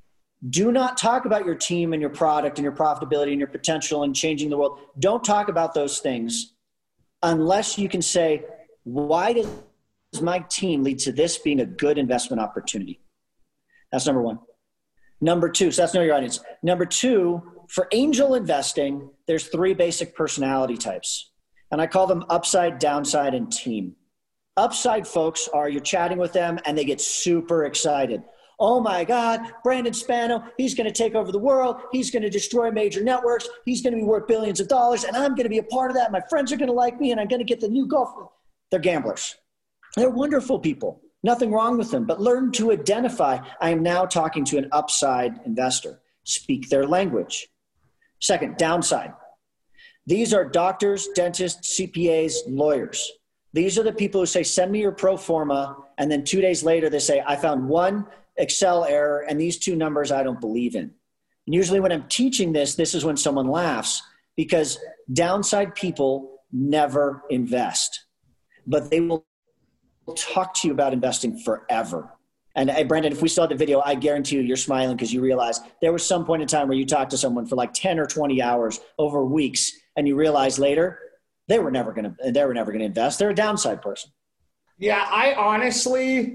Do not talk about your team and your product and your profitability and your potential and changing the world. Don't talk about those things unless you can say, why does my team lead to this being a good investment opportunity? That's number one. Number two, so that's know your audience. Number two, for angel investing, there's 3 basic personality types. And I call them upside, downside, and team. Upside folks are you're chatting with them and they get super excited. Oh my God, Brandon Spano, he's going to take over the world. He's going to destroy major networks. He's going to be worth billions of dollars. And I'm going to be a part of that. My friends are going to like me and I'm going to get the new golf. They're gamblers. They're wonderful people. Nothing wrong with them, but learn to identify. I am now talking to an upside investor. Speak their language. Second, downside. These are doctors, dentists, CPAs, lawyers. These are the people who say, send me your pro forma. And then 2 days later, they say, I found one Excel error and these 2 numbers I don't believe in. And usually when I'm teaching this is when someone laughs because downside people never invest, but they will talk to you about investing forever. And hey, Brandon, if we saw the video, I guarantee you're smiling because you realize there was some point in time where you talked to someone for like 10 or 20 hours over weeks, and you realize later they were never going to invest. They're a downside person. Yeah, I honestly,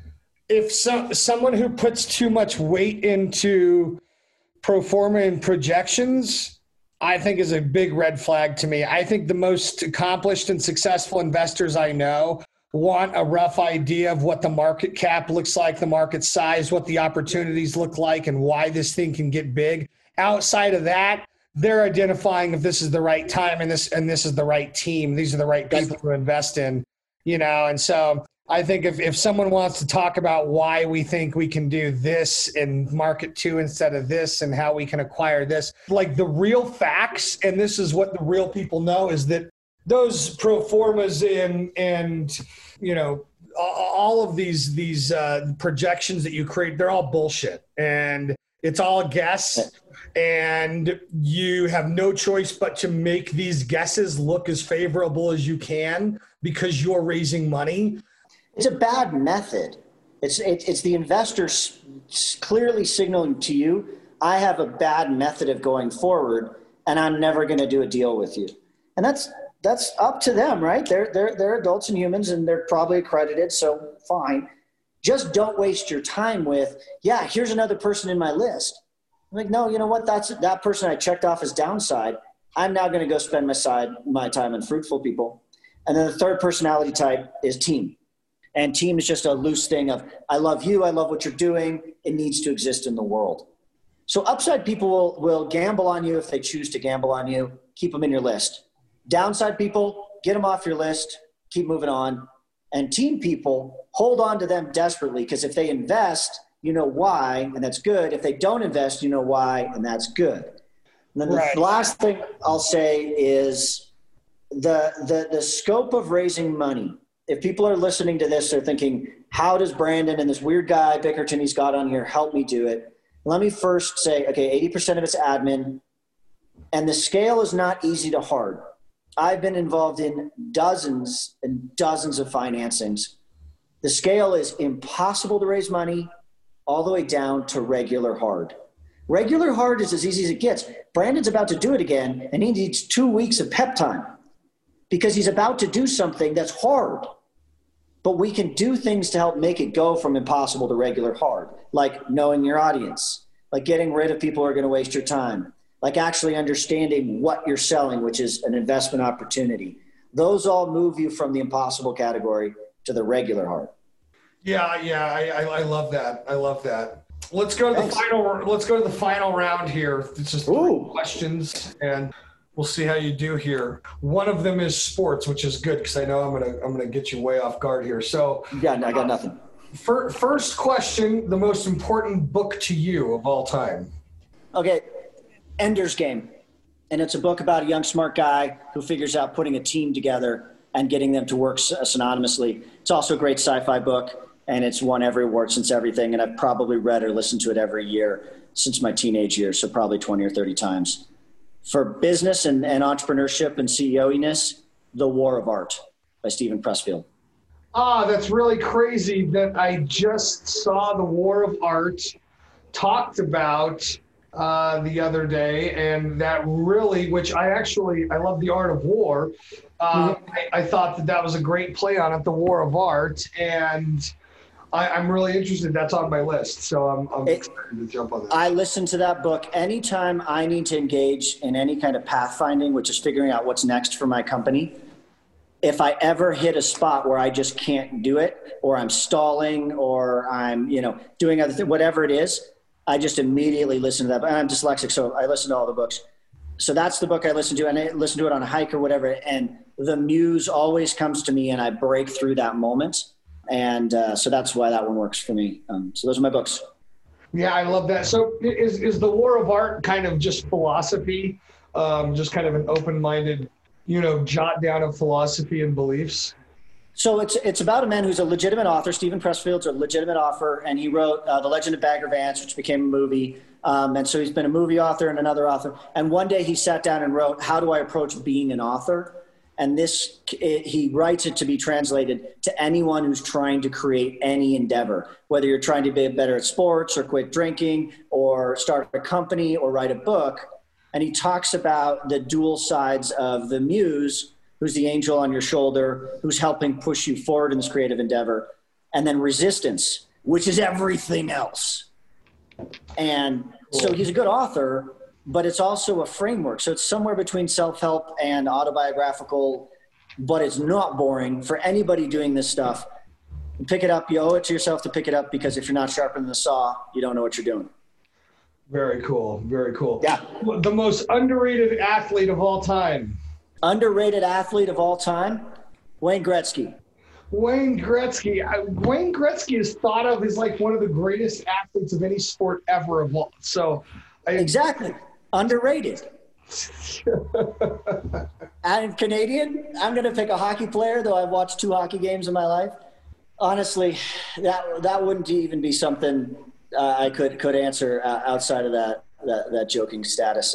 if someone who puts too much weight into pro forma and projections, I think is a big red flag to me. I think the most accomplished and successful investors I know want a rough idea of what the market cap looks like, the market size, what the opportunities look like, and why this thing can get big. Outside of that, they're identifying if this is the right time and this is the right team. These are the right people to invest in, and so I think if someone wants to talk about why we think we can do this in market 2 instead of this and how we can acquire this, like the real facts, and this is what the real people know, is that those pro formas and all of these projections that you create, they're all bullshit and it's all a guess, and you have no choice but to make these guesses look as favorable as you can because you're raising money. It's a bad method. It's the investors clearly signaling to you, I have a bad method of going forward and I'm never going to do a deal with you. And that's up to them, right? They're adults and humans and they're probably accredited, so fine. Just don't waste your time with, here's another person in my list. I'm like, no, you know what? That's that person I checked off as downside. I'm now going to go spend my time on fruitful people. And then the third personality type is team. And team is just a loose thing of, I love you, I love what you're doing, it needs to exist in the world. So upside people will gamble on you if they choose to gamble on you. Keep them in your list. Downside people, get them off your list, keep moving on. And team people, hold on to them desperately because if they invest, you know why, and that's good. If they don't invest, you know why, and that's good. And then the last thing I'll say is the scope of raising money. If people are listening to this, they're thinking, how does Brandon and this weird guy, Bickerton, he's got on here, help me do it? Let me first say, okay, 80% of it's admin, and the scale is not easy to hard. I've been involved in dozens and dozens of financings. The scale is impossible to raise money all the way down to regular hard. Regular hard is as easy as it gets. Brandon's about to do it again, and he needs 2 weeks of pep time because he's about to do something that's hard. But we can do things to help make it go from impossible to regular hard, like knowing your audience, like getting rid of people who are going to waste your time, like actually understanding what you're selling, which is an investment opportunity. Those all move you from the impossible category to the regular hard. Yeah, yeah, I love that. I love that. Let's go to the final. Let's go to the final round here. It's just 3 questions, and we'll see how you do here. One of them is sports, which is good because I know I'm gonna get you way off guard here. So I got nothing. First question: the most important book to you of all time? Okay, Ender's Game, and it's a book about a young smart guy who figures out putting a team together and getting them to work synonymously. It's also a great sci-fi book. And it's won every award since everything. And I've probably read or listened to it every year since my teenage years. So probably 20 or 30 times. For business and entrepreneurship and CEO-iness, The War of Art by Steven Pressfield. That's really crazy that I just saw The War of Art talked about the other day. And that really, which I love The Art of War. I thought that was a great play on it, The War of Art. And I'm really interested. That's on my list, so I'm excited to jump on that. I listen to that book anytime I need to engage in any kind of pathfinding, which is figuring out what's next for my company. If I ever hit a spot where I just can't do it, or I'm stalling, or I'm doing other things, whatever it is, I just immediately listen to that. I'm dyslexic, so I listen to all the books. So that's the book I listen to, and I listen to it on a hike or whatever, and the muse always comes to me, and I break through that moment. And so that's why that one works for me. So those are my books. Yeah, I love that. So is The War of Art kind of just philosophy, just kind of an open-minded, jot down of philosophy and beliefs? So it's about a man who's a legitimate author. Steven Pressfield's a legitimate author, and he wrote The Legend of Bagger Vance, which became a movie. And so he's been a movie author and another author. And one day he sat down and wrote, how do I approach being an author? And he writes it to be translated to anyone who's trying to create any endeavor, whether you're trying to be better at sports or quit drinking or start a company or write a book. And he talks about the dual sides of the muse, who's the angel on your shoulder, who's helping push you forward in this creative endeavor, and then resistance, which is everything else. And so he's a good author, but it's also a framework. So it's somewhere between self-help and autobiographical, but it's not boring for anybody doing this stuff. Pick it up. You owe it to yourself to pick it up, because if you're not sharpening the saw, you don't know what you're doing. Very cool. Very cool. Yeah. The most underrated athlete of all time. Underrated athlete of all time? Wayne Gretzky. Wayne Gretzky is thought of as like one of the greatest athletes of any sport ever evolved. So exactly. Underrated. I'm Canadian. I'm going to pick a hockey player, though I've watched 2 hockey games in my life. Honestly, that wouldn't even be something I could answer outside of that joking status.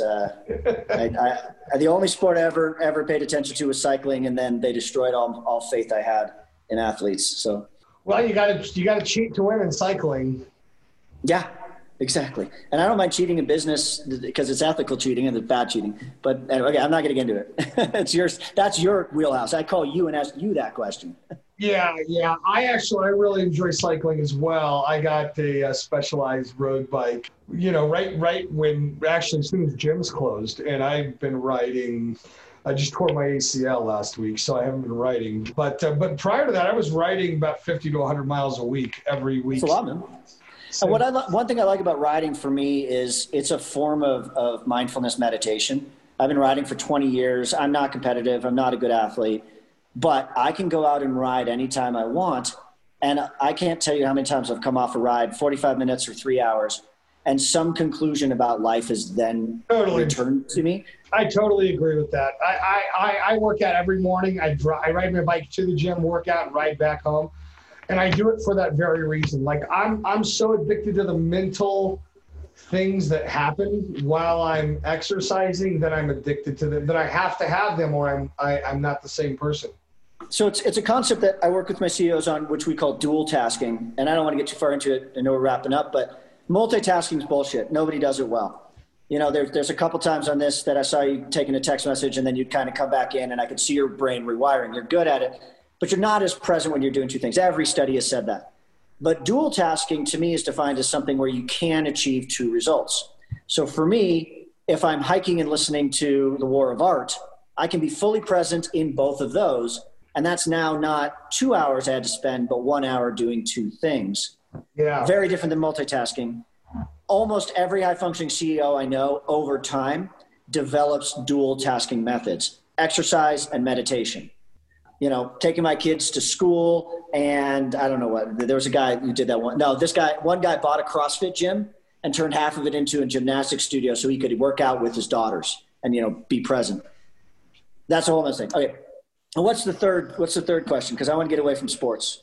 The only sport I ever paid attention to was cycling, and then they destroyed all faith I had in athletes. So, well, you got to cheat to win in cycling. Yeah. Exactly. And I don't mind cheating in business because it's ethical cheating and it's bad cheating. But anyway, I'm not going to get into it. It's yours. That's your wheelhouse. I call you and ask you that question. Yeah. I really enjoy cycling as well. I got a specialized road bike, right when actually as soon as gyms closed, and I've been riding. I just tore my ACL last week, so I haven't been riding. But prior to that, I was riding about 50 to 100 miles a week every week. That's a lot, man. So, one thing I like about riding for me is it's a form of mindfulness meditation. I've been riding for 20 years. I'm not competitive. I'm not a good athlete, but I can go out and ride anytime I want. And I can't tell you how many times I've come off a ride, 45 minutes or 3 hours, and some conclusion about life is then returned to me. I totally agree with that. I work out every morning. I ride my bike to the gym, work out, and ride back home. And I do it for that very reason. Like I'm so addicted to the mental things that happen while I'm exercising that I'm addicted to them, that I have to have them or I'm not the same person. So it's a concept that I work with my CEOs on, which we call dual tasking. And I don't want to get too far into it. I know we're wrapping up, but multitasking is bullshit. Nobody does it well. There's a couple times on this that I saw you taking a text message and then you'd kind of come back in and I could see your brain rewiring. You're good at it, but you're not as present when you're doing 2 things. Every study has said that. But dual tasking to me is defined as something where you can achieve 2 results. So for me, if I'm hiking and listening to The War of Art, I can be fully present in both of those, And that's now not 2 hours I had to spend, but 1 hour doing two things. Yeah. Very different than multitasking. Almost every high-functioning CEO I know over time develops dual tasking methods, exercise and meditation. Taking my kids to school, and I don't know what, there was a guy who did that one. No, one guy bought a CrossFit gym and turned half of it into a gymnastics studio so he could work out with his daughters and, be present. That's a whole other thing. Okay. And what's the third question? Because I want to get away from sports.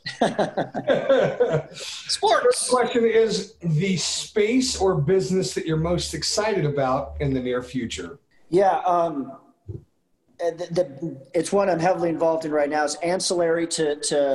Sports. First question is the space or business that you're most excited about in the near future. Yeah. It's one I'm heavily involved in right now. It's ancillary to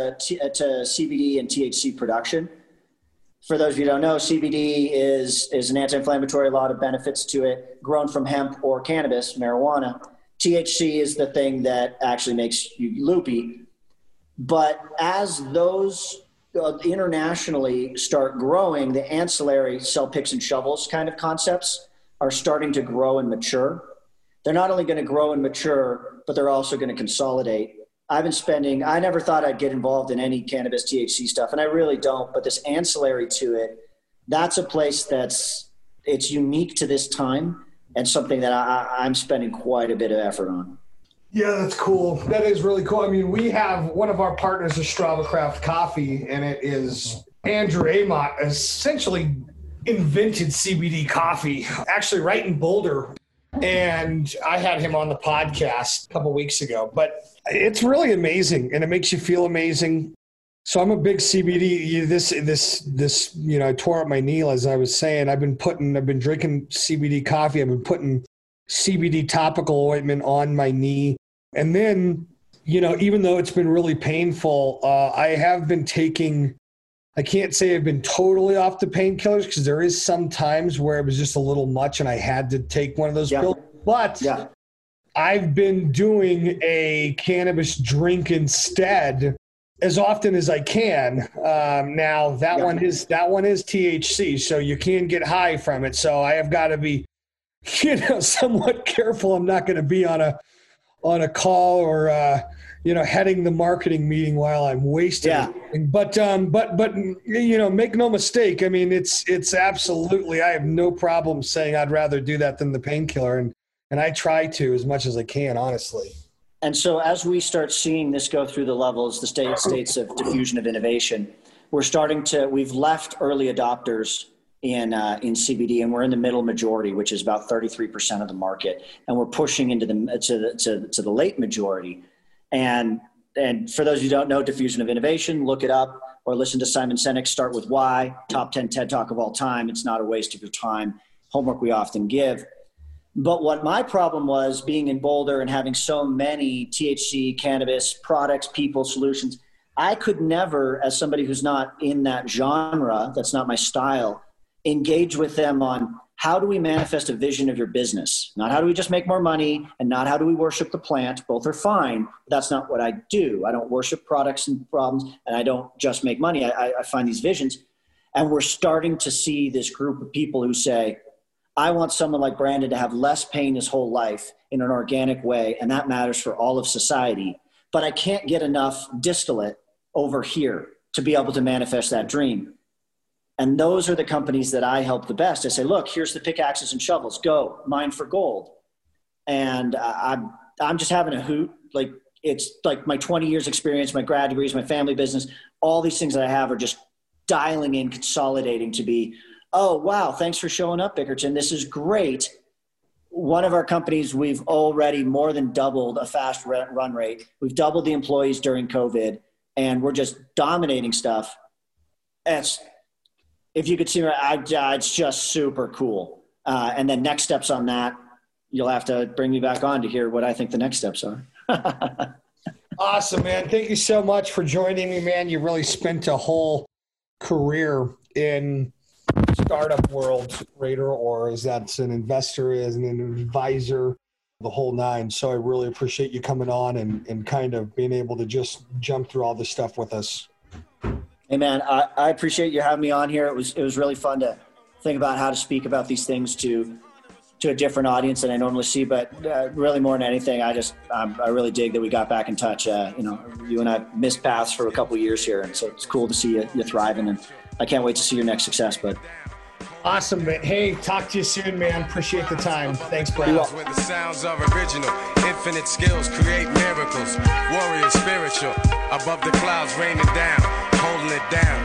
CBD and THC production. For those of you who don't know, CBD is an anti-inflammatory, a lot of benefits to it, grown from hemp or cannabis, marijuana. THC is the thing that actually makes you loopy. But as those internationally start growing, the ancillary sell picks and shovels kind of concepts are starting to grow and mature. They're not only going to grow and mature, but they're also going to consolidate. I never thought I'd get involved in any cannabis THC stuff, and I really don't, but this ancillary to it, that's a place it's unique to this time and something that I'm spending quite a bit of effort on. Yeah, that's cool. That is really cool. I mean, we have one of our partners is Strava Craft Coffee, and it is Andrew Amott essentially invented CBD coffee, actually right in Boulder. And I had him on the podcast a couple weeks ago, but it's really amazing and it makes you feel amazing. So I'm a big CBD. I tore up my knee, as I was saying. I've been drinking CBD coffee. I've been putting CBD topical ointment on my knee. And then, even though it's been really painful, I have been taking, I can't say I've been totally off the painkillers because there is some times where it was just a little much and I had to take one of those pills. But I've been doing a cannabis drink instead as often as I can. Now that one is THC, so you can get high from it. So I have got to be, somewhat careful. I'm not going to be on a call or heading the marketing meeting while I'm wasting. Yeah. But make no mistake. I mean, it's absolutely. I have no problem saying I'd rather do that than the painkiller, and I try to as much as I can, honestly. And so as we start seeing this go through the levels, the states of diffusion of innovation, we've left early adopters in CBD, and we're in the middle majority, which is about 33% of the market, and we're pushing into the late majority. And for those who don't know diffusion of innovation, look it up or listen to Simon Sinek's Start With Why, top 10 TED Talk of all time. It's not a waste of your time. Homework we often give. But what my problem was being in Boulder and having so many THC, cannabis products, people, solutions, I could never, as somebody who's not in that genre, that's not my style, engage with them on how do we manifest a vision of your business? Not how do we just make more money, and not how do we worship the plant. Both are fine, but that's not what I do. I don't worship products and problems, and I don't just make money. I find these visions. And we're starting to see this group of people who say, I want someone like Brandon to have less pain his whole life in an organic way, and that matters for all of society. But I can't get enough distillate over here to be able to manifest that dream. And those are the companies that I help the best. I say, look, here's the pickaxes and shovels. Go mine for gold. And I'm just having a hoot. Like, it's like my 20 years experience, my grad degrees, my family business, all these things that I have are just dialing in, consolidating to be, oh, wow, thanks for showing up, Bickerton. This is great. One of our companies, we've already more than doubled a fast run rate. We've doubled the employees during COVID, and we're just dominating stuff. If you could see, it's just super cool. And then next steps on that, you'll have to bring me back on to hear what I think the next steps are. Awesome, man. Thank you so much for joining me, man. You really spent a whole career in startup world, Raider, or as that's an investor, as an advisor, the whole nine. So I really appreciate you coming on and kind of being able to just jump through all this stuff with us. Hey man, I appreciate you having me on here. It was really fun to think about how to speak about these things to to a different audience than I normally see. But really, more than anything, I really dig that we got back in touch. You and I missed paths for a couple of years here, and so it's cool to see you thriving. And I can't wait to see your next success, bud. Awesome, man. Hey, talk to you soon, man. Appreciate the time. Thanks, Brad. Where the sounds are original, infinite skills create miracles. Warrior spiritual, above the clouds raining down, holding it down.